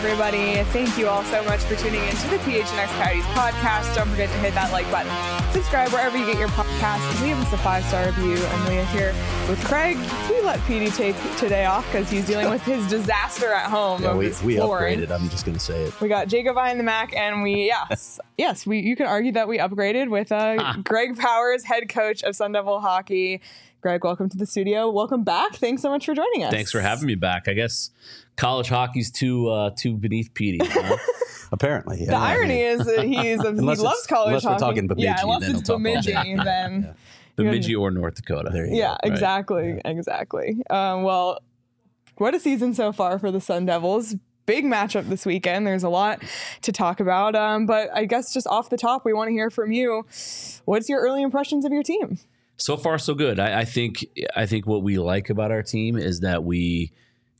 everybody. Thank you all so much for tuning in to the PHNX Coyotes podcast. Don't forget to hit that like button. Subscribe wherever you get your podcasts. Leave us a 5-star review. And we are here with Craig. We let Petey take today off because he's dealing with his disaster at home. Yeah, we upgraded. I'm just going to say it. We got Jacob behind the Mac, and you can argue that we upgraded with Greg Powers, head coach of Sun Devil Hockey. Greg, welcome to the studio. Welcome back. Thanks so much for joining us. Thanks for having me back. I guess college hockey's too beneath Petey. Apparently. The irony is that he loves college hockey. Unless we're talking Bemidji. Yeah, unless it's Bemidji, then... Bemidji or North Dakota. There you go. Exactly. Well, what a season so far for the Sun Devils. Big matchup this weekend. There's a lot to talk about. But I guess just off the top, we want to hear from you. What's your early impressions of your team? So far, so good. I think what we like about our team is that we're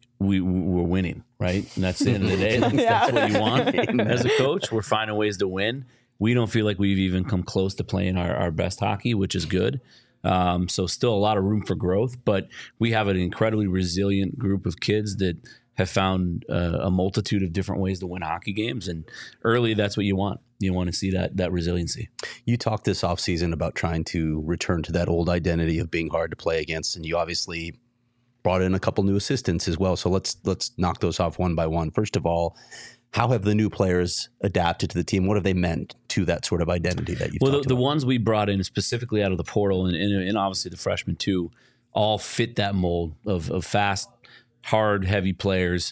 winning, right? And that's the end of the day. That's what you want as a coach. We're finding ways to win. We don't feel like we've even come close to playing our best hockey, which is good. So still a lot of room for growth, but we have an incredibly resilient group of kids that have found a multitude of different ways to win hockey games. And early, that's what you want. You want to see that resiliency. You talked this offseason about trying to return to that old identity of being hard to play against, and you obviously brought in a couple new assistants as well. So let's knock those off one by one. First of all, how have the new players adapted to the team? What have they meant to that sort of identity that you've talked about? The ones we brought in specifically out of the portal and obviously the freshmen too, all fit that mold of fast, hard, heavy players.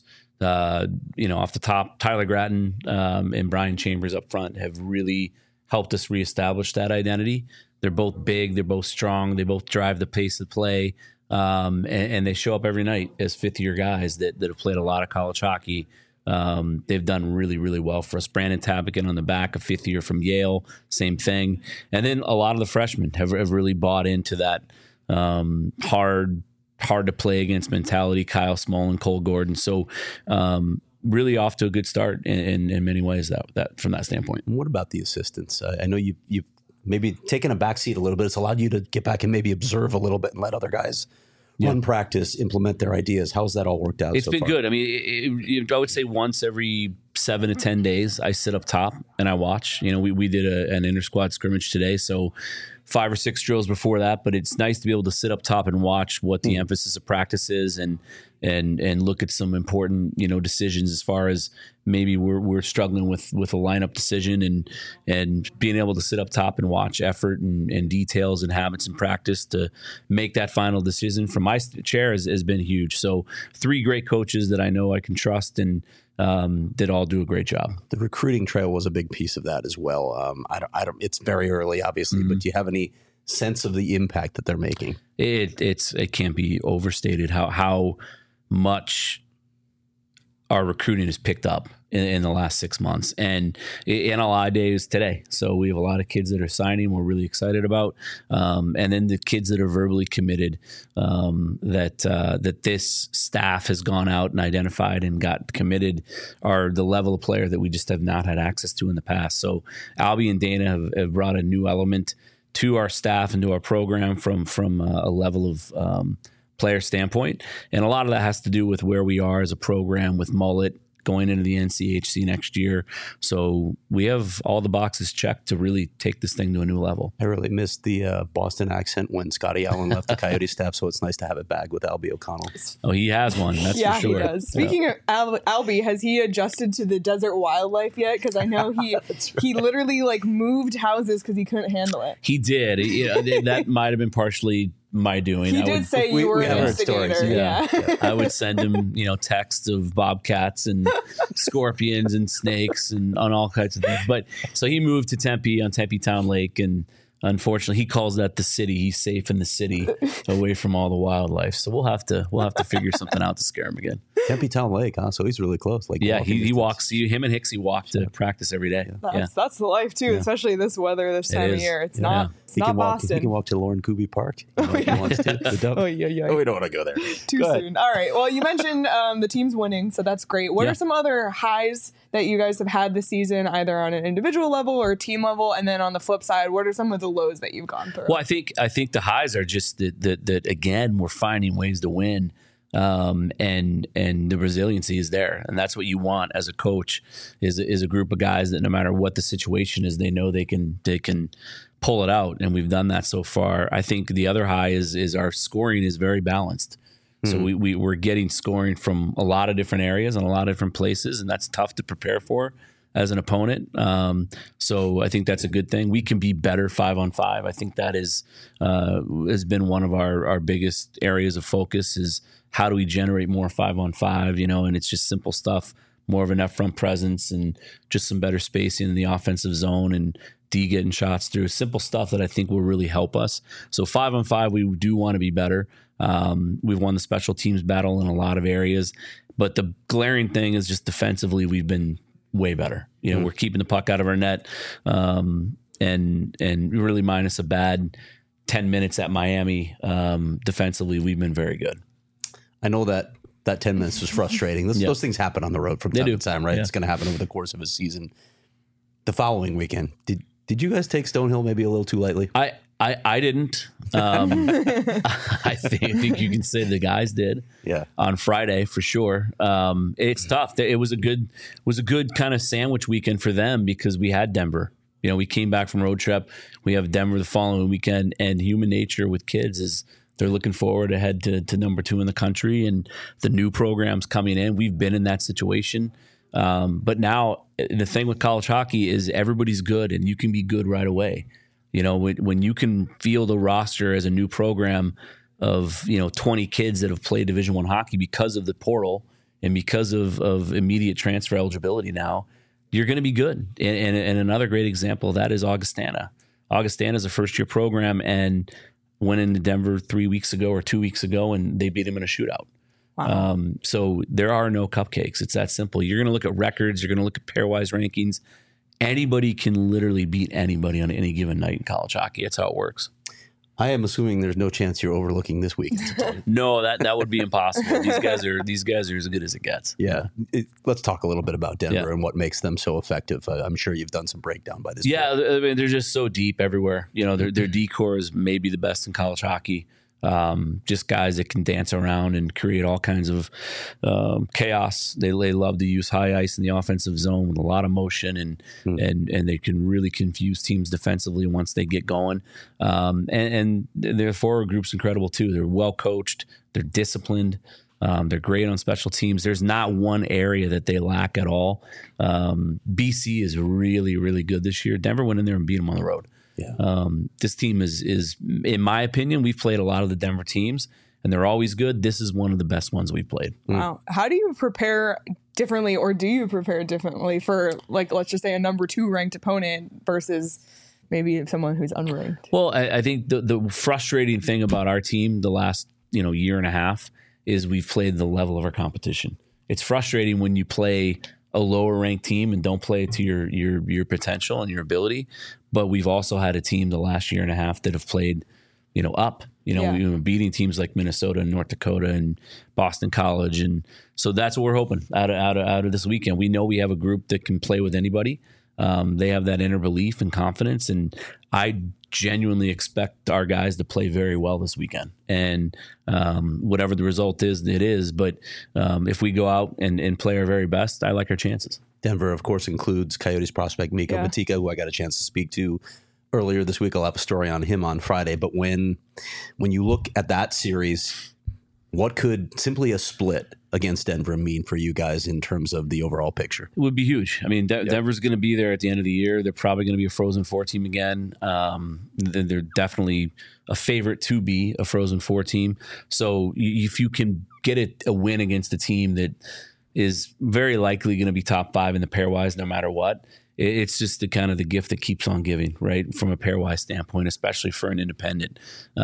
Off the top, Tyler Gratton and Brian Chambers up front have really helped us reestablish that identity. They're both big, they're both strong, they both drive the pace of play, and they show up every night as fifth-year guys that have played a lot of college hockey. They've done really, really well for us. Brandon Tabakin on the back, a fifth year from Yale, same thing. And then a lot of the freshmen have really bought into that hard to play against mentality. Kyle Smolin, Cole Gordon. So really off to a good start in many ways that from that standpoint. What about the assistants? I know you've maybe taken a back seat a little bit. It's allowed you to get back and maybe observe a little bit and let other guys run practice, implement their ideas. How's that all worked out? It's been good. I mean, I would say once every 7 to 10 days, I sit up top and I watch. We did an inter-squad scrimmage today, so 5 or 6 drills before that. But it's nice to be able to sit up top and watch what the emphasis of practice is and look at some important decisions as far as maybe we're struggling with a lineup decision and being able to sit up top and watch effort and details and habits in practice to make that final decision from my chair has been huge. So 3 great coaches that I know I can trust and that all do a great job. The recruiting trail was a big piece of that as well. I don't. It's very early, obviously, but do you have any sense of the impact that they're making? It can't be overstated how much our recruiting has picked up in the last 6 months. And NLI Day is today. So we have a lot of kids that are signing we're really excited about. And then the kids that are verbally committed that this staff has gone out and identified and got committed are the level of player that we just have not had access to in the past. So Albie and Dana have brought a new element to our staff and to our program from a level of player standpoint. And a lot of that has to do with where we are as a program with Mullet going into the NCHC next year. So we have all the boxes checked to really take this thing to a new level. I really missed the Boston accent when Scotty Allen left the Coyote staff, so it's nice to have it back with Albie O'Connell. Oh, he has one. That's for sure. Yeah, he does. Speaking of Albie, has he adjusted to the desert wildlife yet? Because I know he literally moved houses because he couldn't handle it. He did. That might have been partially my doing. He did say you were an instigator. Yeah. I would send him, texts of bobcats and scorpions and snakes and on all kinds of things. But so he moved to Tempe on Tempe Town Lake, and unfortunately, he calls that the city. He's safe in the city, away from all the wildlife. So we'll have to figure something out to scare him again. Tempe Town Lake, huh? So he's really close. He walks. Him and Hicksy walk to practice every day. That's the life too, especially this weather this time of year. It's not. It's not Boston. He can walk to Lauren Kuby Park. If he wants to. We don't want to go there. Too soon. All right. Well, you mentioned the team's winning, so that's great. What are some other highs that you guys have had this season, either on an individual level or team level? And then on the flip side, what are some of the lows that you've gone through? Well, I think the highs are just that again, we're finding ways to win. And the resiliency is there, and that's what you want as a coach is a group of guys that no matter what the situation is, they know they can pull it out, and we've done that so far. I think the other high is our scoring is very balanced. So we're getting scoring from a lot of different areas and a lot of different places, and that's tough to prepare for as an opponent. So I think that's a good thing. We can be better 5-on-5. I think that has been one of our biggest areas of focus is how do we generate more 5-on-5, and it's just simple stuff, more of an up-front presence and just some better spacing in the offensive zone and D getting shots through. Simple stuff that I think will really help us. So 5-on-5, we do want to be better. We've won the special teams battle in a lot of areas, but the glaring thing is just defensively, we've been way better. We're keeping the puck out of our net, and really minus a bad 10 minutes at Miami. Defensively, we've been very good. I know that 10 minutes was frustrating. Those things happen on the road from time to time, right? Yeah. It's going to happen over the course of a season. The following weekend, did you guys take Stonehill maybe a little too lightly? I didn't. I think you can say the guys did. Yeah. On Friday for sure. It's tough. It was a good kind of sandwich weekend for them because we had Denver. We came back from road trip. We have Denver the following weekend, and human nature with kids is they're looking forward to head to number 2 in the country and the new programs coming in. We've been in that situation. But now the thing with college hockey is everybody's good and you can be good right away. When you can field a roster as a new program of, 20 kids that have played Division I hockey because of the portal and because of immediate transfer eligibility now, you're going to be good. And another great example of that is Augustana. Augustana is a first-year program and went into Denver 3 weeks ago or 2 weeks ago, and they beat them in a shootout. Wow. So there are no cupcakes. It's that simple. You're going to look at records. You're going to look at pairwise rankings. Anybody can literally beat anybody on any given night in college hockey. That's how it works. I am assuming there's no chance you're overlooking this week. No, that would be impossible. These guys are as good as it gets. Yeah. Let's talk a little bit about Denver and what makes them so effective. I'm sure you've done some breakdown by this point. Yeah, I mean, they're just so deep everywhere. Their D-core is maybe the best in college hockey. Just guys that can dance around and create all kinds of chaos. They love to use high ice in the offensive zone with a lot of motion, and they can really confuse teams defensively once they get going. And their forward group's incredible too. They're well coached. They're disciplined. They're great on special teams. There's not one area that they lack at all. BC is really, really good this year. Denver went in there and beat them on the road. Yeah. This team is, in my opinion, we've played a lot of the Denver teams, and they're always good. This is one of the best ones we've played. Wow. How do you prepare differently, or do you prepare differently for, like, let's just say a number 2 ranked opponent versus maybe someone who's unranked? Well, I think the frustrating thing about our team the last year and a half is we've played the level of our competition. It's frustrating when you play a lower ranked team and don't play to your potential and your ability. But we've also had a team the last year and a half that have played, up, we've been beating teams like Minnesota and North Dakota and Boston College. And so that's what we're hoping out of this weekend. We know we have a group that can play with anybody. They have that inner belief and confidence. And I genuinely expect our guys to play very well this weekend. And whatever the result is, it is. But if we go out and play our very best, I like our chances. Denver, of course, includes Coyotes prospect Mikko Matika, who I got a chance to speak to earlier this week. I'll have a story on him on Friday. But when you look at that series, what could simply a split against Denver mean for you guys in terms of the overall picture? It would be huge. I mean, Denver's going to be there at the end of the year. They're probably going to be a Frozen Four team again. They're definitely a favorite to be a Frozen Four team. So if you can get a win against a team that is very likely going to be top 5 in the pairwise no matter what, it's just the kind of the gift that keeps on giving, right? From a pairwise standpoint, especially for an independent.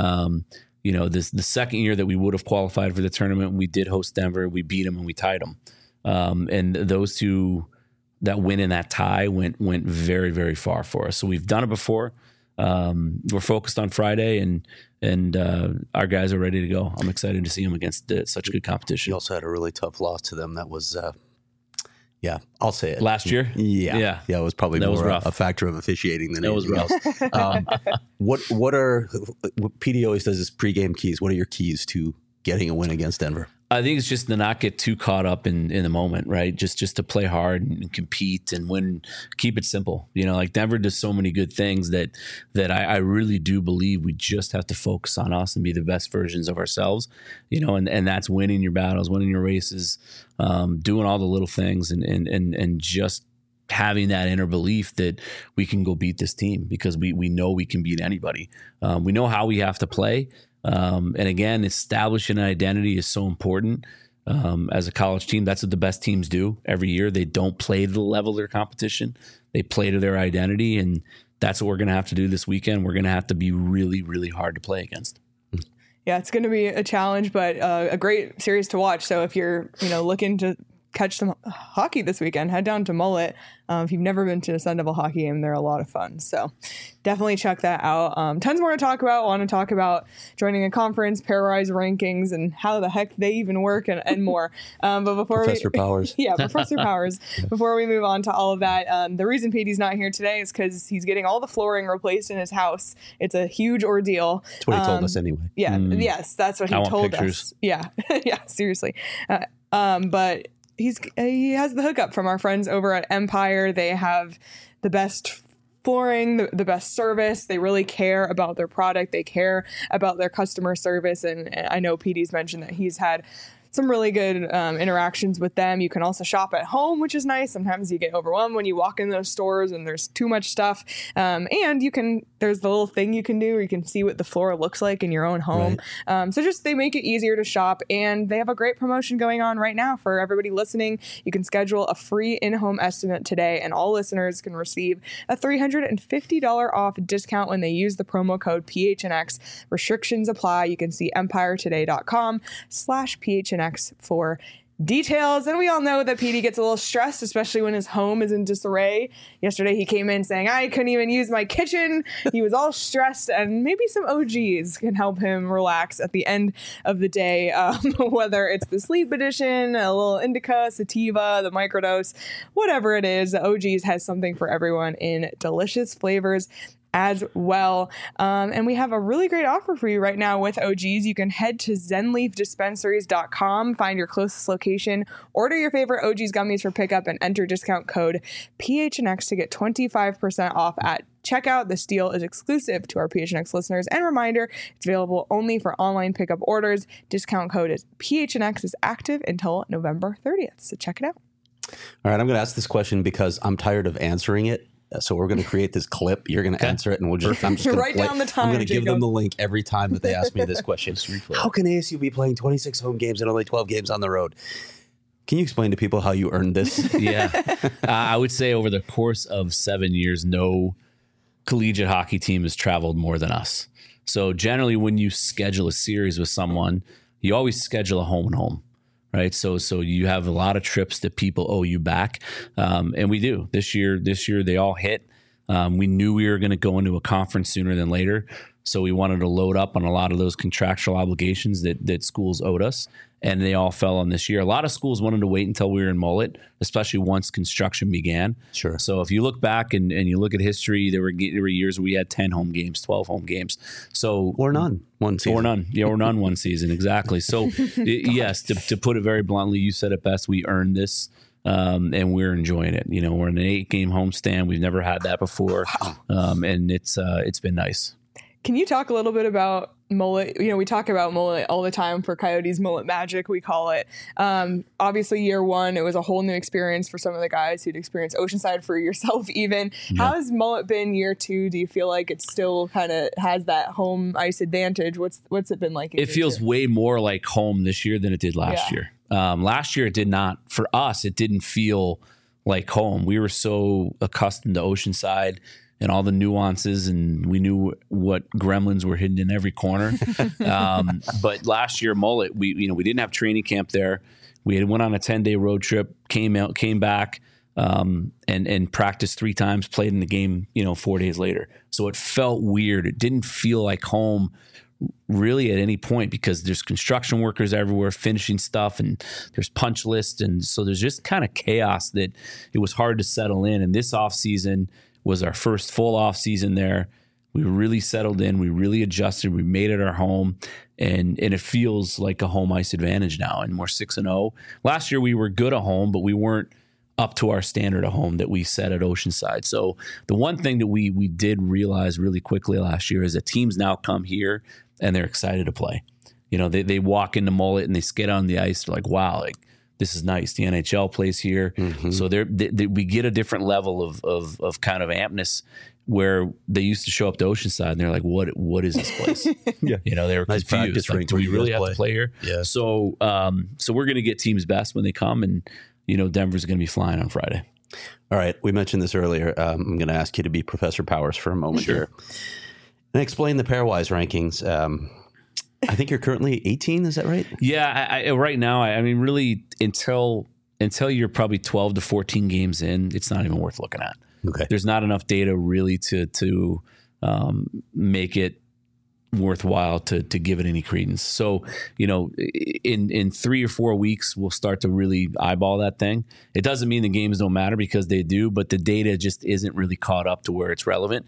The second year that we would have qualified for the tournament, we did host Denver. We beat them and we tied them. And those two, that win and that tie went very, very far for us. So we've done it before. We're focused on Friday, and our guys are ready to go. I'm excited to see them against such good competition. You also had a really tough loss to them. That was, I'll say it. Last year? Yeah. It was probably more a factor of officiating than anything else. What PD always does is pregame keys. What are your keys to getting a win against Denver? I think it's just to not get too caught up in the moment, right? Just to play hard and compete and win, keep it simple. Like Denver does so many good things that I really do believe we just have to focus on us and be the best versions of ourselves, and that's winning your battles, winning your races, doing all the little things and just having that inner belief that we can go beat this team because we know we can beat anybody. We know how we have to play. And again, establishing an identity is so important as a college team. That's what the best teams do every year. They don't play to the level of their competition. They play to their identity. And that's what we're going to have to do this weekend. We're going to have to be really, really hard to play against. Yeah, it's going to be a challenge, but a great series to watch. So if you're, looking to catch some hockey this weekend, head down to Mullet. If you've never been to a Sun Devil hockey game, they're a lot of fun. So definitely check that out. Tons more to talk about. Want to talk about joining a conference, pairwise rankings, and how the heck they even work and more. But before Professor Powers. Yeah, Professor Powers. Before we move on to all of that, the reason Petey's not here today is because he's getting all the flooring replaced in his house. It's a huge ordeal. That's what he told us anyway. Yeah. Yes, that's what he told us. Yeah. Yeah, seriously. But he has the hookup from our friends over at Empire. They have the best flooring, the best service. They really care about their product. They care about their customer service. And I know Petey's mentioned that he's had some really good interactions with them. You can also shop at home, which is nice. Sometimes you get overwhelmed when you walk in those stores and there's too much stuff. And there's the little thing you can do where you can see what the floor looks like in your own home. Right. So they make it easier to shop, and they have a great promotion going on right now for everybody listening. You can schedule a free in-home estimate today, and all listeners can receive a $350 off discount when they use the promo code PHNX. Restrictions apply. You can see empiretoday.com/PHNX for details. And we all know that Petey gets a little stressed, especially when his home is in disarray. Yesterday he came in saying, I couldn't even use my kitchen. He was all stressed, and maybe some OGs can help him relax at the end of the day, whether it's the sleep edition, a little indica, sativa, the microdose, whatever it is. The OGs has something for everyone in delicious flavors as well. And we have a really great offer for you right now with OGs. You can head to zenleafdispensaries.com, find your closest location, order your favorite OGs gummies for pickup, and enter discount code PHNX to get 25% off at checkout. This deal is exclusive to our PHNX listeners. And reminder, it's available only for online pickup orders. Discount code is PHNX is active until November 30th. So check it out. All right, I'm going to ask this question because I'm tired of answering it. So we're going to create this clip. You're going to answer it, and I'm just going to write down the time. I'm going to give them the link every time that they ask me this question. How can ASU be playing 26 home games and only 12 games on the road? Can you explain to people how you earned this? Yeah. I would say over the course of 7 years, no collegiate hockey team has traveled more than us. So generally when you schedule a series with someone, you always schedule a home and home. Right. So you have a lot of trips that people owe you back. And we do. This year, they all hit. We knew we were going to go into a conference sooner than later. So we wanted to load up on a lot of those contractual obligations that schools owed us. And they all fell on this year. A lot of schools wanted to wait until we were in Mullet, especially once construction began. Sure. So if you look back and you look at history, there were years where we had 10 home games, 12 home games. So or none one season. Or none. Yeah, or none one season. Exactly. So yes, to put it very bluntly, you said it best. We earned this. And we're enjoying it. We're in an 8-game homestand. We've never had that before. And it's been nice. Can you talk a little bit about Mullet? We talk about Mullet all the time for Coyotes, Mullet Magic, we call it. Obviously, year one, it was a whole new experience for some of the guys who'd experienced Oceanside, for yourself even. Yeah. How has Mullet been year two? Do you feel like it still kind of has that home ice advantage? What's it been like? It feels way more like home this year than it did last year. Last year, it did not. For us, it didn't feel like home. We were so accustomed to Oceanside and all the nuances, and we knew what gremlins were hidden in every corner. But last year, Mullet, we didn't have training camp there. We went on a 10-day road trip, came back, and practiced 3 times, played in the game, 4 days later. So it felt weird. It didn't feel like home really at any point, because there's construction workers everywhere finishing stuff, and there's punch lists. And so there's just kind of chaos that it was hard to settle in. And this off season was our first full off season there. We really settled in. We really adjusted. We made it our home, and it feels like a home ice advantage now. And we're 6-0. Last year we were good at home, but we weren't up to our standard at home that we set at Oceanside. So the one thing that we did realize really quickly last year is that teams now come here and they're excited to play. You know, they walk into Mullet and they skate on the ice. They're like, wow, like this is nice. The NHL plays here. So we get a different level of kind of ampness where they used to show up to Oceanside and they're like, what is this place? You know, they were Nice confused. Like, do we really have to play here? Yeah. So we're going to get teams best when they come, and you know, Denver's going to be flying on Friday. All right. We mentioned this earlier. I'm going to ask you to be Professor Powers for a moment here and explain the pairwise rankings. I think you're currently 18. Is that right? Yeah. Right now, I mean, really until you're probably 12 to 14 games in, it's not even worth looking at. Okay. There's not enough data really to make it worthwhile to give it any credence. So, you know, in 3 or 4 weeks, we'll start to really eyeball that thing. It doesn't mean the games don't matter, because they do, but the data just isn't really caught up to where it's relevant.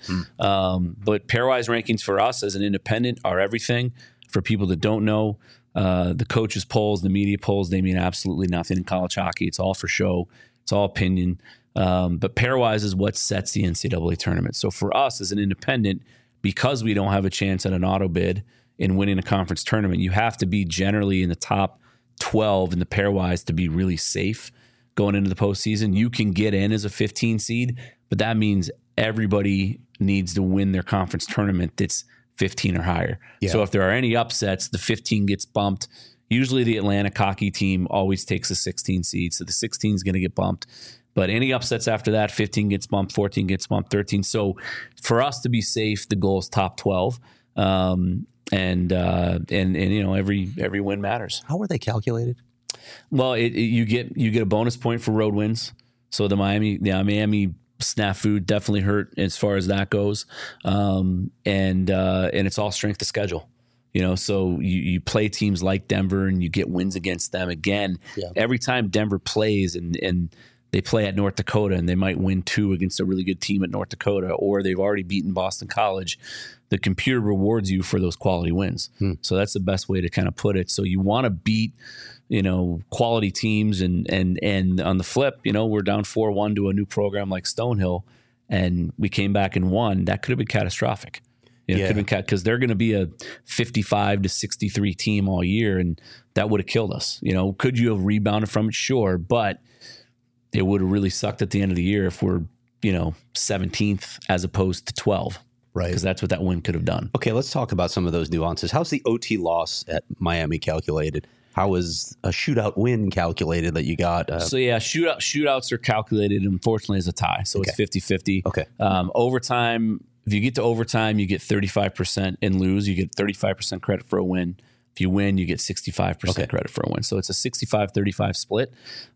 But pairwise rankings for us as an independent are everything. For people that don't know, the coaches polls, the media polls, they mean absolutely nothing in college hockey. It's all for show. It's all opinion. But pairwise is what sets the NCAA tournament. So for us as an independent, because we don't have a chance at an auto bid in winning a conference tournament, you have to be generally in the top 12 in the pairwise to be really safe going into the postseason. You can get in as a 15 seed, but that means everybody needs to win their conference tournament that's 15 or higher. Yeah. So if there are any upsets, the 15 gets bumped. Usually the Atlantic hockey team always takes a 16 seed, so the 16 is going to get bumped. But any upsets after that, 15 gets bumped, 14 gets bumped, 13. So for us to be safe, the goal is top 12. And you know, every win matters. How are they calculated? Well, you get a bonus point for road wins. So the Miami snafu definitely hurt as far as that goes. And it's all strength of schedule. You know, so you play teams like Denver and you get wins against them. Again, every time Denver plays and they play at North Dakota and they might win 2 against a really good team at North Dakota, or they've already beaten Boston College, the computer rewards you for those quality wins. So that's the best way to kind of put it. So you want to beat, you know, quality teams, and on the flip, you know, we're down 4-1 to a new program like Stonehill and we came back and won. That could have been catastrophic. You know, it could have been because they're going to be a 55 to 63 team all year, and that would have killed us. You know, could you have rebounded from it? Sure, but it would have really sucked at the end of the year if we're, you know, 17th as opposed to 12. Right. Because that's what that win could have done. Okay, let's talk about some of those nuances. How's the OT loss at Miami calculated? How is a shootout win calculated that you got? So, yeah, shootouts are calculated, unfortunately, as a tie. So it's 50-50. Okay. Overtime, if you get to overtime, you get 35% and lose. You get 35% credit for a win. If you win, you get 65% credit for a win. So it's a 65-35 split.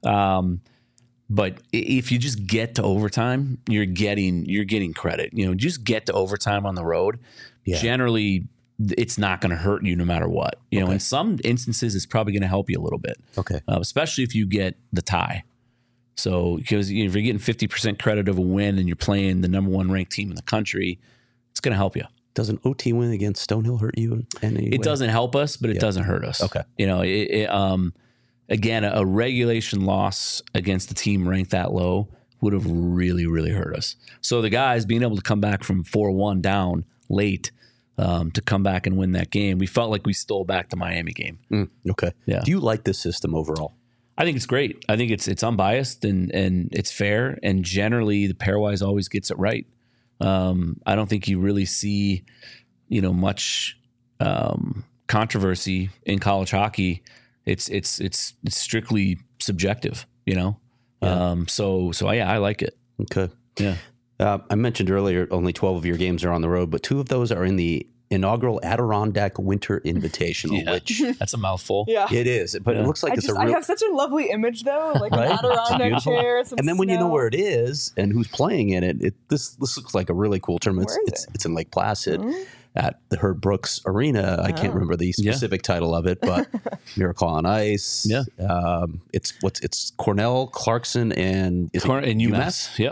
But if you just get to overtime, you're getting credit. You know, just get to overtime on the road. Yeah. Generally, it's not going to hurt you no matter what. You know, in some instances, it's probably going to help you a little bit. Okay. Especially if you get the tie. So, because if you're getting 50% credit of a win and you're playing the number 1 ranked team in the country, it's going to help you. Does an OT win against Stonehill hurt you in any way? It doesn't help us, but it doesn't hurt us. Okay. You know, again, a regulation loss against a team ranked that low would have really, really hurt us. So the guys being able to come back from 4-1 down late to come back and win that game, we felt like we stole back the Miami game. Okay. Yeah. Do you like this system overall? I think it's great. I think it's unbiased and it's fair. And generally, the pairwise always gets it right. I don't think you really see, you know, much controversy in college hockey. It's strictly subjective, you know. Yeah. So I like it. Okay. Yeah. I mentioned earlier only 12 of your games are on the road, but 2 of those are in the inaugural Adirondack Winter Invitational, which that's a mouthful. Yeah, it is. But it looks like I have such a lovely image though, like an Adirondack chair, some and then when snow. you know where it is and who's playing in it, this looks like a really cool tournament. It's in Lake Placid. At the Herb Brooks Arena. I can't remember the specific title of it, but Miracle on Ice. Yeah. It's Cornell, Clarkson, and UMass. Yep.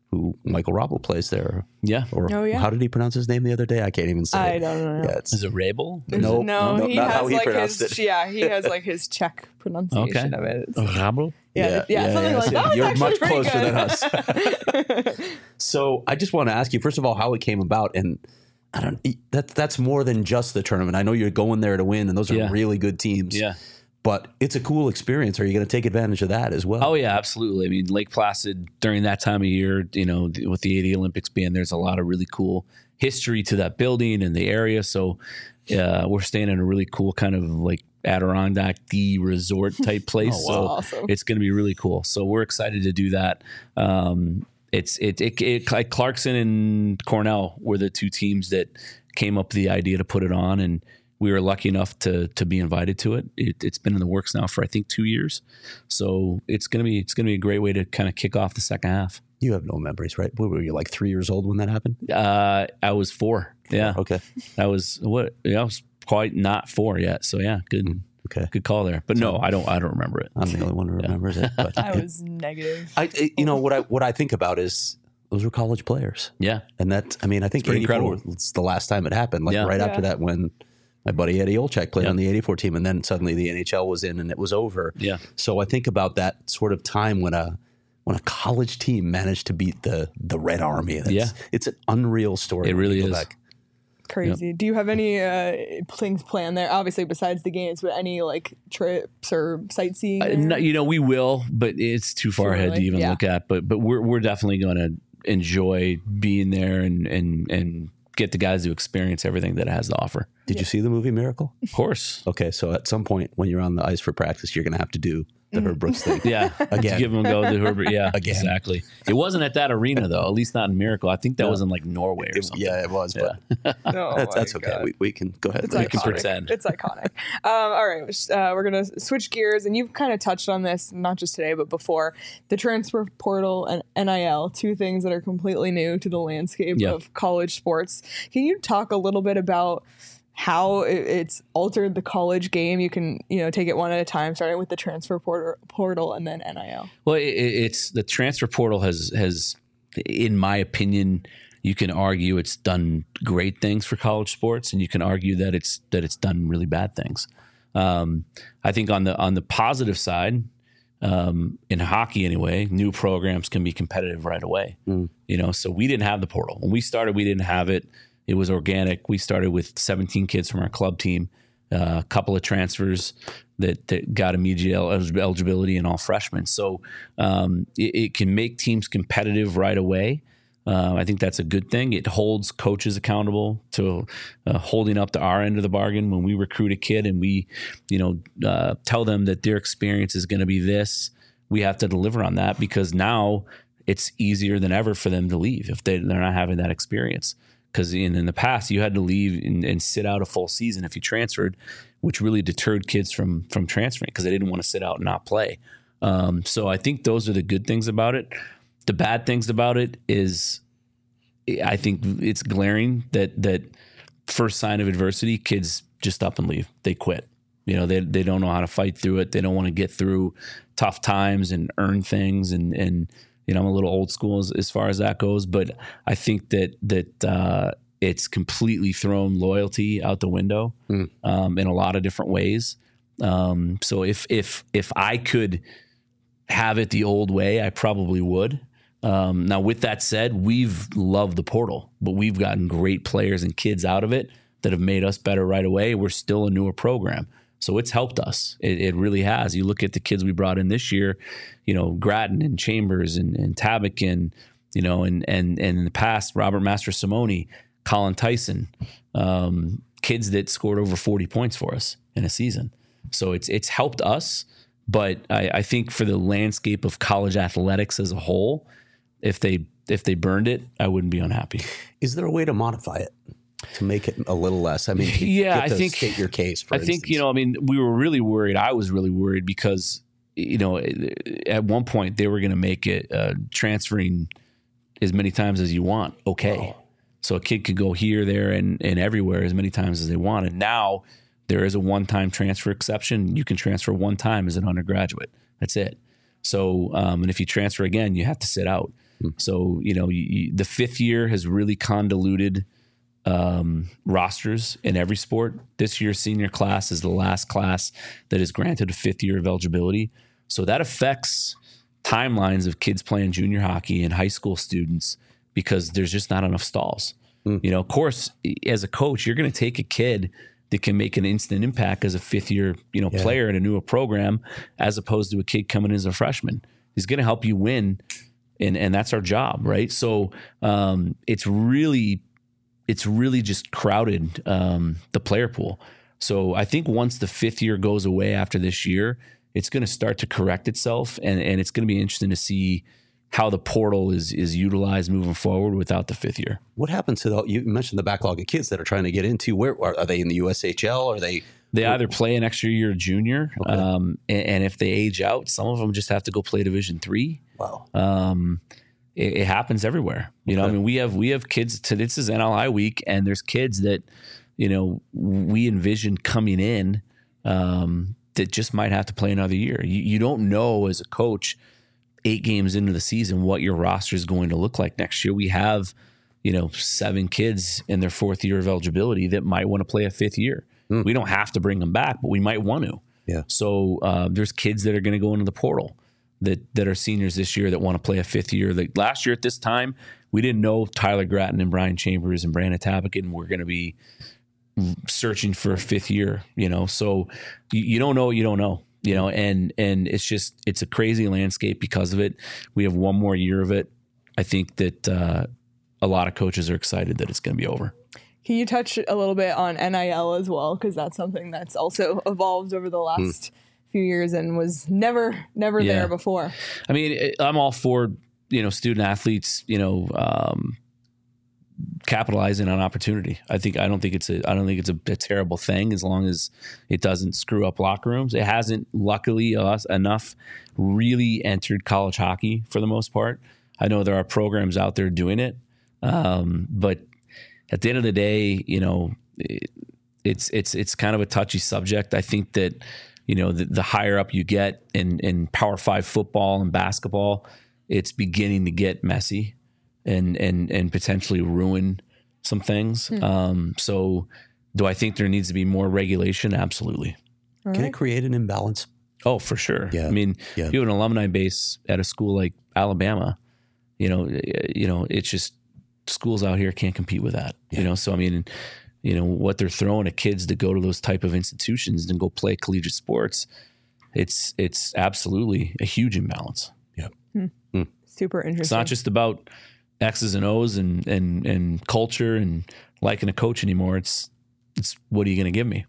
who Michael Robel plays there. Yeah. Or Oh, yeah. how did he pronounce his name the other day? I can't even say I it. don't know. Yeah, it's, Is it Rabel? no, he not has how he like pronounced his it. he has like his Czech pronunciation of it. It's- Rabel? something like that. You're That's much actually closer pretty than us. So I just want to ask you, first of all, how it came about. And that's more than just the tournament. I know you're going there to win, and those are really good teams. Yeah. But it's a cool experience. Are you going to take advantage of that as well? Oh, yeah, absolutely. I mean, Lake Placid during that time of year, with the 80 Olympics being, there's a lot of really cool history to that building and the area. So we're staying in a really cool kind of like Adirondack-y resort type place. Oh, wow. So Awesome. it's going to be really cool. So we're excited to do that. It's like Clarkson and Cornell were the two teams that came up with the idea to put it on, and we were lucky enough to be invited to it. It's been in the works now for I think 2 years, so it's gonna be a great way to kind of kick off the second half. You have no memories, right? What were you, like 3 years old when that happened? I was 4. Yeah, Okay. I was I was quite not 4 yet. So yeah, good. Okay. Good call there. But no, I don't remember it. I'm the only one who remembers it. But I was negative. what I think about is those were college players. Yeah, And that, I mean, I think pretty 84 incredible. was the last time it happened. Like Yeah. right Yeah. after that, when my buddy Eddie Olczyk played Yeah. on the 84 team, and then suddenly the NHL was in and it was over. Yeah. So I think about that sort of time when a college team managed to beat the Red Army. It's an unreal story. It when you really go is. back. Crazy. Do you have any things planned there? Obviously, besides the games, but any like trips or sightseeing? there? we will, but it's too far ahead to early. even Yeah. look at. But we're definitely going to enjoy being there and get the guys to experience everything that it has to offer. Did you see the movie Miracle? Of course. Okay, so at some point when you're on the ice for practice, you're going to have to do the Herb Brooks thing. Yeah. Again. To give them a go to Herbert. Yeah. Again. Exactly. It wasn't at that arena though, at least not in Miracle. I think that was in like Norway or something. Yeah, it was, but Oh that's my okay. God. We can go ahead. It's We can iconic. pretend. It's iconic. All right, we're gonna switch gears, and you've kind of touched on this not just today, but before. The transfer portal and NIL, two things that are completely new to the landscape Yeah. of college sports. Can you talk a little bit about how it's altered the college game? You can take it one at a time, starting with the transfer portal and then NIL. Well, it's the transfer portal has, in my opinion, you can argue it's done great things for college sports, and you can argue that it's done really bad things. I think on the positive side, in hockey anyway, new programs can be competitive right away. So we didn't have the portal when we started. We didn't have it. It was organic. We started with 17 kids from our club team, a couple of transfers that got immediate eligibility, and all freshmen. So it can make teams competitive right away. I think that's a good thing. It holds coaches accountable to holding up to our end of the bargain when we recruit a kid and we, tell them that their experience is going to be this. We have to deliver on that, because now it's easier than ever for them to leave if they're not having that experience. Because in the past, you had to leave and sit out a full season if you transferred, which really deterred kids from transferring because they didn't want to sit out and not play. So I think those are the good things about it. The bad things about it is I think it's glaring that first sign of adversity, kids just up and leave. They quit. They don't know how to fight through it. They don't want to get through tough times and earn things. And I'm a little old school as far as that goes, but I think that it's completely thrown loyalty out the window in a lot of different ways. So if I could have it the old way, I probably would. Now, with that said, we've loved the portal, but we've gotten great players and kids out of it that have made us better right away. We're still a newer program. So it's helped us. It really has. You look at the kids we brought in this year, Grattan and Chambers and Tabakin, and in the past, Robert Mastrosimone, Colin Tyson, kids that scored over 40 points for us in a season. So it's helped us. But I think for the landscape of college athletics as a whole, if they burned it, I wouldn't be unhappy. Is there a way to modify it to make it a little less? I mean, I think state your case. For instance. instance. We were really worried. I was really worried because at one point they were going to make it transferring as many times as you want. Okay, so a kid could go here, there, and everywhere as many times as they want. And now there is a one-time transfer exception. You can transfer one time as an undergraduate. That's it. So, and if you transfer again, you have to sit out. So, the fifth year has really convoluted rosters in every sport. This year's senior class is the last class that is granted a fifth year of eligibility. So that affects timelines of kids playing junior hockey and high school students because there's just not enough stalls. Of course, as a coach, you're going to take a kid that can make an instant impact as a fifth year, player in a newer program, as opposed to a kid coming in as a freshman. He's going to help you win. And that's our job. Right. So, it's really just crowded, the player pool. So I think once the fifth year goes away after this year, it's going to start to correct itself. And it's going to be interesting to see how the portal is utilized moving forward without the fifth year. What happens to you mentioned the backlog of kids that are trying to get into? Where are they in the USHL? Are they either play an extra year junior, and if they age out, some of them just have to go play Division III. Wow. It happens everywhere. We have kids this is NLI week, and there's kids that, we envision coming in, that just might have to play another year. You don't know as a coach 8 games into the season what your roster is going to look like next year. We have, 7 kids in their 4th year of eligibility that might want to play a 5th year. We don't have to bring them back, but we might want to. Yeah. So there's kids that are going to go into the portal that are seniors this year that want to play a 5th year. Like last year at this time, we didn't know Tyler Gratton and Brian Chambers and Brandon Tabakin were going to be searching for a 5th year. So you don't know what you don't know. And it's a crazy landscape because of it. We have one more year of it. I think that a lot of coaches are excited that it's going to be over. Can you touch a little bit on NIL as well? Because that's something that's also evolved over the last few years and was never there before. I mean, I'm all for, student athletes, capitalizing on opportunity. I don't think it's a terrible thing as long as it doesn't screw up locker rooms. It hasn't, luckily, enough really entered college hockey for the most part. I know there are programs out there doing it, but at the end of the day, it's kind of a touchy subject. I think that the higher up you get in Power 5 football and basketball, it's beginning to get messy and potentially ruin some things. So do I think there needs to be more regulation? Absolutely. Can it create an imbalance? Oh, for sure. Yeah. I mean, you have an alumni base at a school like Alabama, it's just schools out here can't compete with that, So, I mean, what they're throwing at kids to go to those type of institutions and go play collegiate sports, it's absolutely a huge imbalance. Yeah. Super interesting. It's not just about X's and O's and culture and liking a coach anymore. It's what are you going to give me?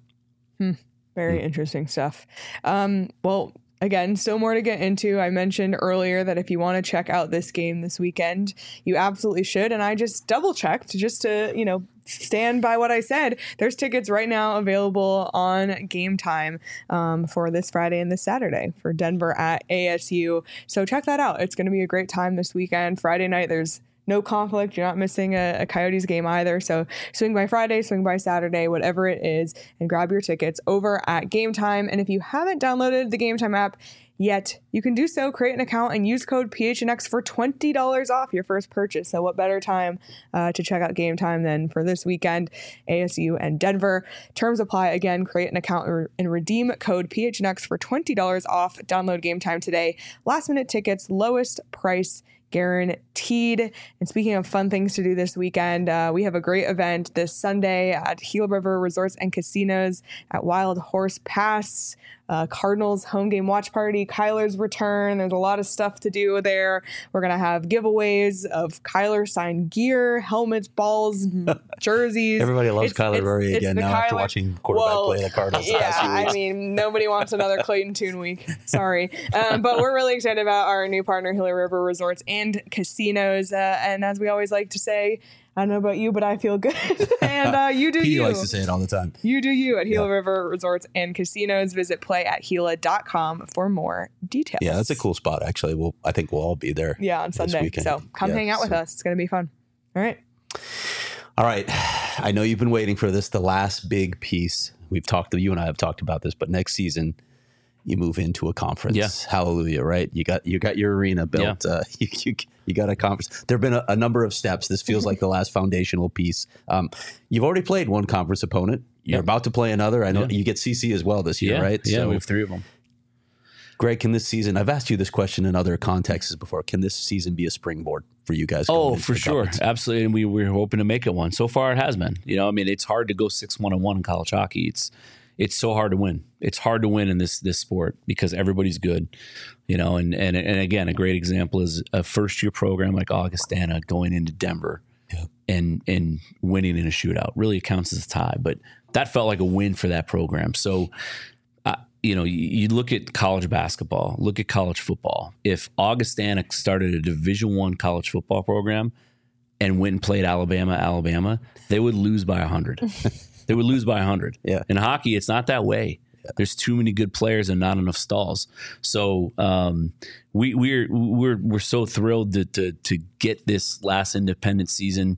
Very interesting stuff. Well, again, still more to get into. I mentioned earlier that if you want to check out this game this weekend, you absolutely should. And I just double checked just to, stand by what I said. There's tickets right now available on Game Time for this Friday and this Saturday for Denver at ASU. So check that out. It's going to be a great time this weekend. Friday night, there's no conflict. You're not missing a Coyotes game either. So swing by Friday, swing by Saturday, whatever it is, and grab your tickets over at Game Time. And if you haven't downloaded the Game Time app yet, you can do so. Create an account and use code PHNX for $20 off your first purchase. So what better time to check out Game Time than for this weekend, ASU and Denver. Terms apply. Again, create an account and redeem code PHNX for $20 off. Download Game Time today. Last minute tickets, lowest price guaranteed. And speaking of fun things to do this weekend, we have a great event this Sunday at Gila River Resorts and Casinos at Wild Horse Pass. Cardinals home game watch party, Kyler's return. There's a lot of stuff to do there. We're going to have giveaways of Kyler signed gear, helmets, balls, jerseys. Everybody loves Kyler Murray again now after watching quarterback play the Cardinals. Yeah, I mean, nobody wants another Clayton Tune week. Sorry. But we're really excited about our new partner, Gila River Resorts and Casinos. And as we always like to say, I don't know about you, but I feel good. And you do you. He likes to say it all the time. You do you at Gila River Resorts and Casinos. Visit playathila.com for more details. Yeah, that's a cool spot, actually. I think we'll all be there. Yeah, on Sunday. So come hang out with us. It's going to be fun. All right. I know you've been waiting for this, the last big piece. You and I have talked about this, but next season you move into a conference. Yeah. Hallelujah, right? You got your arena built. Yeah. You You got a conference. There have been a number of steps. This feels like the last foundational piece. You've already played one conference opponent. You're about to play another. I know you get CC as well this year, right? Yeah, we have 3 of them. Greg, can this season, I've asked you this question in other contexts before, can this season be a springboard for you guys? Oh, for sure. Absolutely. And we're hoping to make it one. So far it has been. It's hard to go 6-1-1 in college hockey. It's so hard to win. It's hard to win in this sport because everybody's good, and again, a great example is a first-year program like Augustana going into Denver and winning in a shootout. Really, it counts as a tie, but that felt like a win for that program. So, you look at college basketball, look at college football. If Augustana started a Division I college football program and went and played Alabama, they would lose by 100. They would lose by 100. Yeah. In hockey, it's not that way. Yeah. There's too many good players and not enough stalls. So we're so thrilled to get this last independent season,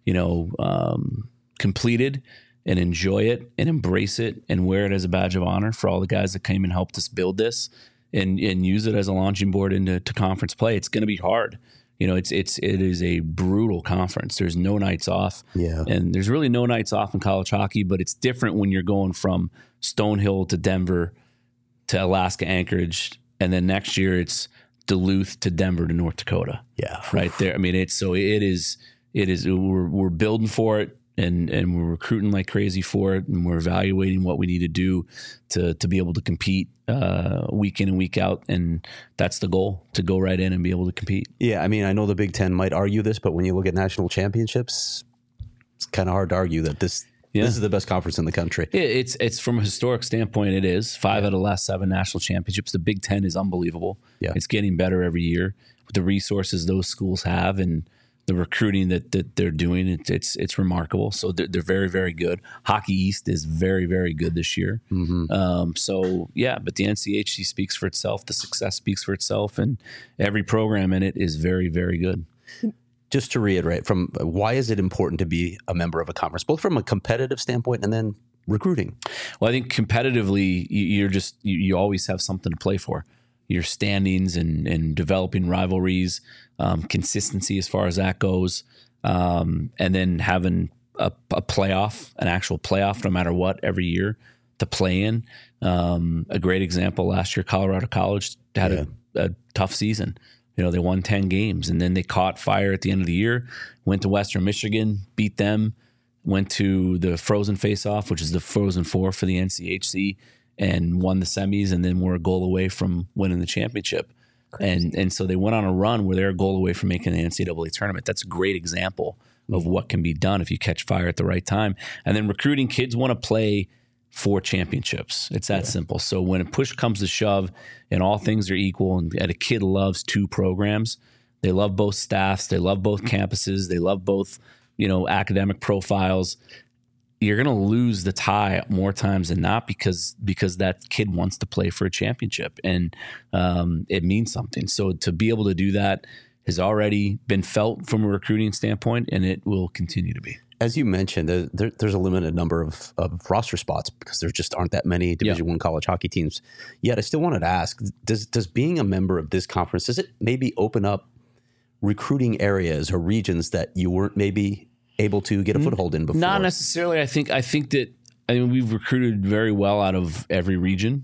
completed and enjoy it and embrace it and wear it as a badge of honor for all the guys that came and helped us build this and use it as a launching board into conference play. It's going to be hard. It is a brutal conference. There's no nights off. Yeah. And there's really no nights off in college hockey, but it's different when you're going from Stonehill to Denver to Alaska Anchorage. And then next year it's Duluth to Denver to North Dakota. Yeah. Right there. I mean, we're building for it. And we're recruiting like crazy for it, and we're evaluating what we need to do to be able to compete week in and week out, and that's the goal, to go right in and be able to compete. Yeah, I mean, I know the Big Ten might argue this, but when you look at national championships, it's kind of hard to argue that this is the best conference in the country. It's from a historic standpoint, it is. 5 out of the last 7 national championships. The Big Ten is unbelievable. Yeah. It's getting better every year with the resources those schools have and the recruiting that they're doing. It's remarkable. So they're very, very good. Hockey East is very, very good this year. Mm-hmm. But the NCHC speaks for itself. The success speaks for itself, and every program in it is very, very good. Just to reiterate, from why is it important to be a member of a conference, both from a competitive standpoint and then recruiting? Well, I think competitively, you always have something to play for. Your standings and developing rivalries, consistency as far as that goes, and then having a playoff, an actual playoff, no matter what, every year to play in. A great example last year, Colorado College had a tough season. They won 10 games, and then they caught fire at the end of the year, went to Western Michigan, beat them, went to the Frozen Face-Off, which is the Frozen Four for the NCHC, and won the semis, and then were a goal away from winning the championship. And so they went on a run where they're a goal away from making the NCAA tournament. That's a great example of what can be done if you catch fire at the right time. And then recruiting, kids want to play for championships. It's that simple. So when a push comes to shove and all things are equal, and a kid loves 2 programs, they love both staffs, they love both campuses, they love both, academic profiles, you're going to lose the tie more times than not because that kid wants to play for a championship, and it means something. So to be able to do that has already been felt from a recruiting standpoint, and it will continue to be. As you mentioned, there's a limited number of roster spots because there just aren't that many Division I college hockey teams. Yet I still wanted to ask, does being a member of this conference, does it maybe open up recruiting areas or regions that you weren't maybe able to get a foothold in before? Not necessarily. I think that we've recruited very well out of every region,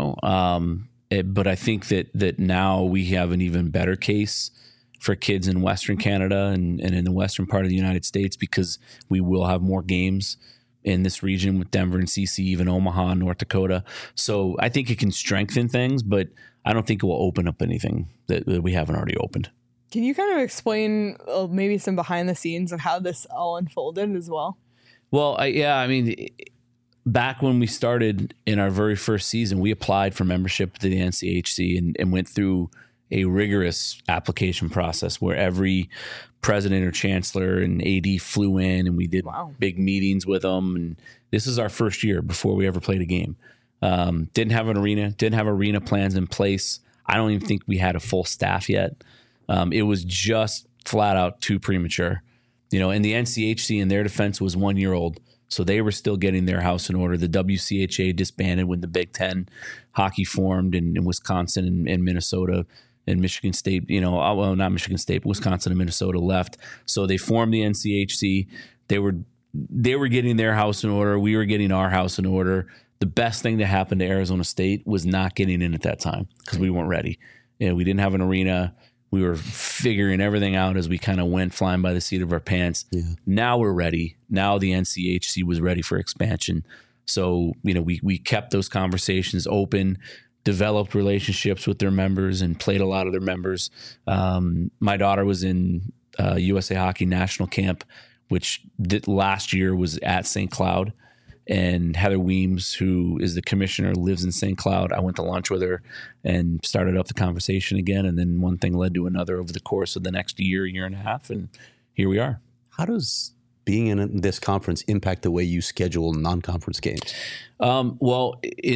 but I think that now we have an even better case for kids in Western Canada and in the western part of the United States, because we will have more games in this region with Denver and CC, even Omaha, North Dakota. So I think it can strengthen things, but I don't think it will open up anything that we haven't already opened. Can you kind of explain maybe some behind the scenes of how this all unfolded as well? Well, back when we started in our very first season, we applied for membership to the NCHC and went through a rigorous application process where every president or chancellor and AD flew in, and we did big meetings with them. And this is our first year before we ever played a game. Didn't have arena plans in place. I don't even think we had a full staff yet. It was just flat out too premature, and the NCHC in their defense was 1 year old. So they were still getting their house in order. The WCHA disbanded when the Big Ten hockey formed in Wisconsin and Minnesota, and Michigan State, well, not Michigan State, but Wisconsin and Minnesota left. So they formed the NCHC. They were getting their house in order. We were getting our house in order. The best thing that happened to Arizona State was not getting in at that time because we weren't ready. We didn't have an arena. We were figuring everything out as we kind of went flying by the seat of our pants. Yeah. Now we're ready. Now the NCHC was ready for expansion. So, we kept those conversations open, developed relationships with their members, and played a lot of their members. My daughter was in USA Hockey National Camp, which last year was at St. Cloud. And Heather Weems, who is the commissioner, lives in St. Cloud. I went to lunch with her and started up the conversation again. And then one thing led to another over the course of the next year and a half. And here we are. How does being in this conference impact the way you schedule non-conference games? Well,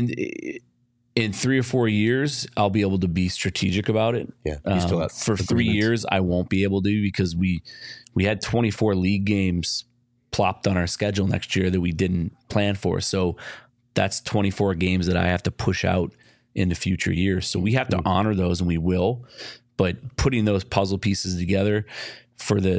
in 3 or 4 years, I'll be able to be strategic about it. Yeah, you still have for 3 years, I won't be able to because we had 24 league games plopped on our schedule next year that we didn't plan for. So that's 24 games that I have to push out into future years. So we have to honor those, and we will. But putting those puzzle pieces together for the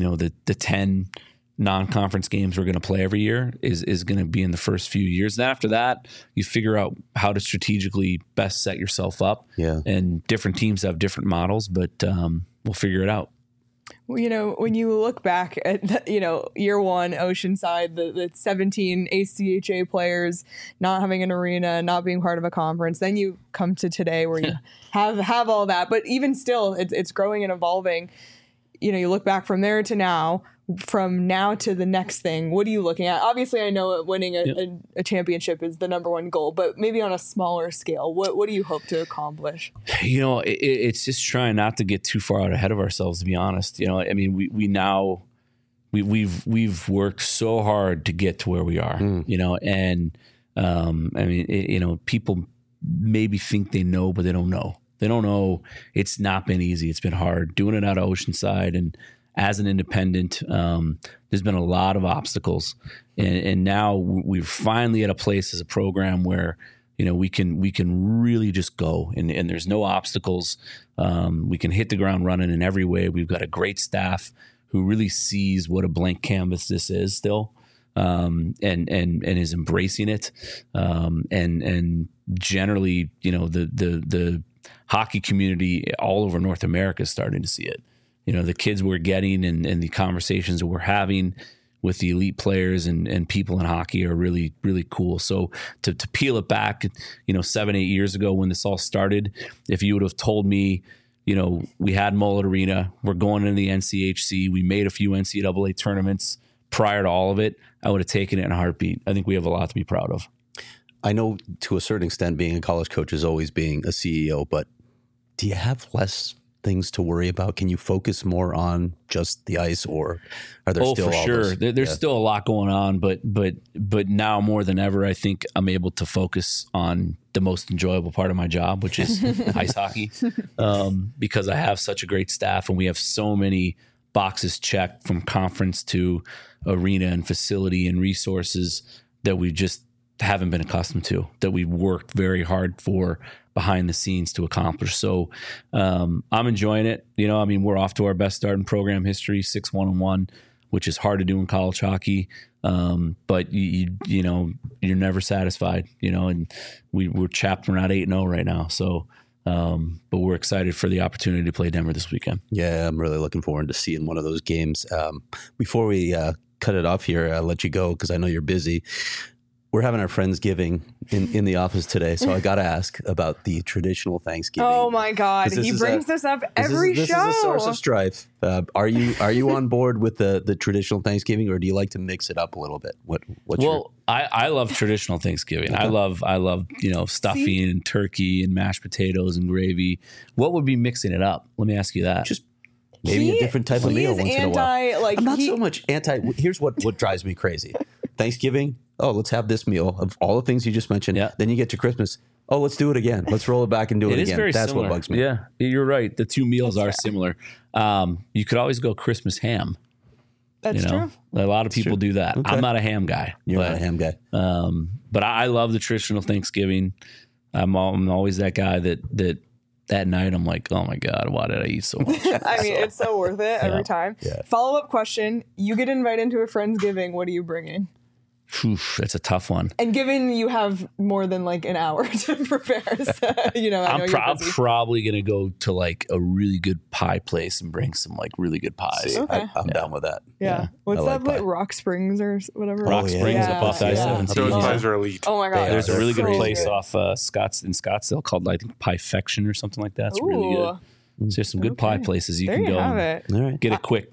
10 non-conference games we're going to play every year is going to be in the first few years. And after that, you figure out how to strategically best set yourself up. Yeah. And different teams have different models, but we'll figure it out. Well, when you look back at, year one, Oceanside, the 17 ACHA players not having an arena, not being part of a conference, then you come to today where you have all that. But even still, it's growing and evolving. You look back from there to now, from now to the next thing. What are you looking at? Obviously, I know winning a championship is the number one goal, but maybe on a smaller scale, what do you hope to accomplish? It's just trying not to get too far out ahead of ourselves, to be honest. We've worked so hard to get to where we are, people maybe think they know, but they don't know. They don't know. It's not been easy. It's been hard doing it out of Oceanside and as an independent. There's been a lot of obstacles, and now we're finally at a place as a program where we can really just go, and there's no obstacles. We can hit the ground running in every way. We've got a great staff who really sees what a blank canvas this is still, and is embracing it. And generally, the hockey community all over North America is starting to see it. The kids we're getting and the conversations that we're having with the elite players and people in hockey are really, really cool. So to peel it back, 7-8 years ago when this all started, if you would have told me, we had Mullet Arena, we're going into the NCHC, we made a few NCAA tournaments prior to all of it, I would have taken it in a heartbeat. I think we have a lot to be proud of. I know to a certain extent being a college coach is always being a CEO, but do you have less things to worry about? Can you focus more on just the ice, or are there still for all sure those? There's still a lot going on, but now more than ever, I think I'm able to focus on the most enjoyable part of my job, which is ice hockey, because I have such a great staff and we have so many boxes checked from conference to arena and facility and resources that we just haven't been accustomed to, that we've worked very hard for behind the scenes to accomplish. So I'm enjoying it. We're off to our best start in program history, 6-1-1, which is hard to do in college hockey. But you're never satisfied, and we're chapped. We're not 8-0 right now. So, but we're excited for the opportunity to play Denver this weekend. Yeah, I'm really looking forward to seeing one of those games. Before we cut it off here, I'll let you go because I know you're busy. We're having our Friendsgiving in the office today, so I got to ask about the traditional Thanksgiving. Oh my God, he brings this up every show. This is a source of strife. Are you on board with the traditional Thanksgiving, or do you like to mix it up a little bit? I love traditional Thanksgiving. Okay. I love stuffing and turkey and mashed potatoes and gravy. What would be mixing it up? Let me ask you that. Just maybe a different type of meal once in a while. I'm not so much anti. Here's what drives me crazy. Thanksgiving. Oh, let's have this meal of all the things you just mentioned. Yeah. Then you get to Christmas. Oh, let's do it again. Let's roll it back and do it again. Is very That's similar. What bugs me. Yeah, you're right. The two meals are similar. You could always go Christmas ham. That's true. A lot of people do that. Okay. I'm not a ham guy. You're not a ham guy. But I love the traditional Thanksgiving. I'm always that guy that that night, I'm like, oh my God, why did I eat so much? I mean, it's so worth it every time. Yeah. Follow-up question. You get invited to a Friendsgiving. What are you bringing? Oof, that's a tough one. And given you have more than like an hour to prepare, so, you know, I know you're busy. Probably going to go to like a really good pie place and bring some like really good pies. See, Okay. I'm down with that. Yeah. What's I that like place? pie. Rock Springs or whatever? Rock Springs up off I-17. Those Yeah. pies are elite. Oh my God. There's a really good so place good. off in Scottsdale called, I think, Piefection or something like that. It's really Ooh. good. So there's some good pie places you There can you go have and it. All right. get a quick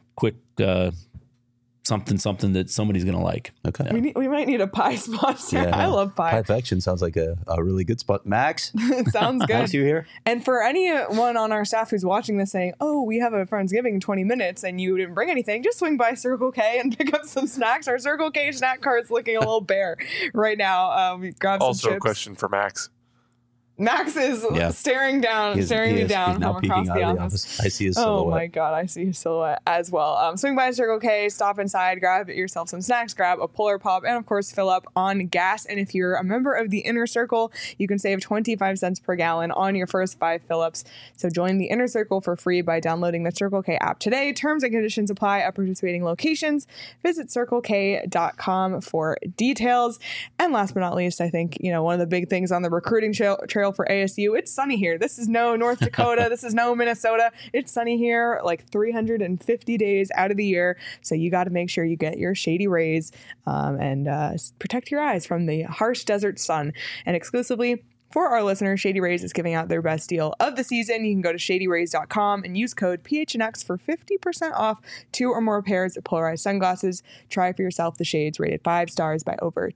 something that somebody's going to like. Okay. We might need a pie sponsor. Yeah. I love pie. Piefection sounds like a really good spot. Max, It sounds nice good. you here. And for anyone on our staff who's watching this saying, oh, we have a Friendsgiving in 20 minutes and you didn't bring anything, just swing by Circle K and pick up some snacks. Our Circle K snack cart's looking a little bare right now. We grab some Also, chips. a question for Max. Max is Yeah. staring me down He's now from peeking across out the of the office. office. I see his Oh silhouette. my God, I see his silhouette as well. Swing by Circle K, stop inside, grab yourself some snacks, grab a Polar Pop, and of course fill up on gas. And if you're a member of the Inner Circle, you can save 25 cents per gallon on your first 5 fill-ups. So join the Inner Circle for free by downloading the Circle K app today. Terms and conditions apply at participating locations. Visit CircleK.com for details. And last but not least, I think, you know, one of the big things on the recruiting trail for ASU, it's sunny here. This is no North Dakota. This is no Minnesota. It's sunny here like 350 days out of the year. So you got to make sure you get your shady rays and protect your eyes from the harsh desert sun. And exclusively for our listeners, Shady Rays is giving out their best deal of the season. You can go to shadyrays.com and use code PHNX for 50% off 2 or more pairs of polarized sunglasses. Try for yourself the shades rated 5 stars by over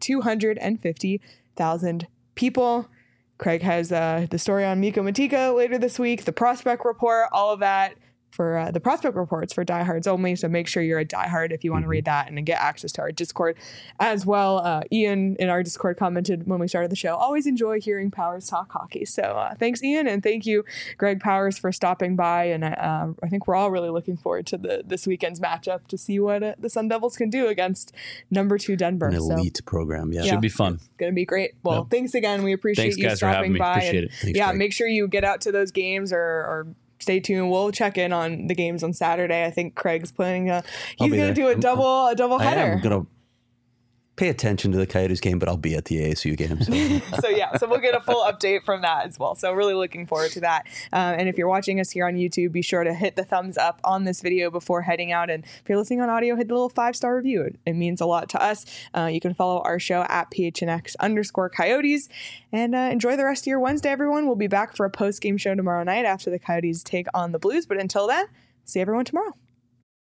250,000 people. Craig has the story on Miko Matika later this week, the prospect report, all of that for the prospect reports for diehards only. So make sure you're a diehard if you want to read that and get access to our Discord as well. Ian in our Discord commented when we started the show, always enjoy hearing Powers talk hockey. So thanks, Ian. And thank you, Greg Powers, for stopping by. And I think we're all really looking forward to this weekend's matchup to see what the Sun Devils can do against number 2 Denver. An elite program. Yeah. Should be fun. It's going to be great. Well, thanks again. We appreciate Thanks, you guys, for having stopping me. by. Appreciate and it. Thanks, yeah, Greg. make sure you get out to those games or stay tuned. We'll check in on the games on Saturday. I think Craig's planning he's be going to there. do a double I header. am going to pay attention to the Coyotes game, but I'll be at the ASU game. So. So we'll get a full update from that as well. So really looking forward to that. And if you're watching us here on YouTube, be sure to hit the thumbs up on this video before heading out. And if you're listening on audio, hit the little 5-star review. It means a lot to us. You can follow our show at PHNX_Coyotes and enjoy the rest of your Wednesday, everyone. We'll be back for a post-game show tomorrow night after the Coyotes take on the Blues. But until then, see everyone tomorrow.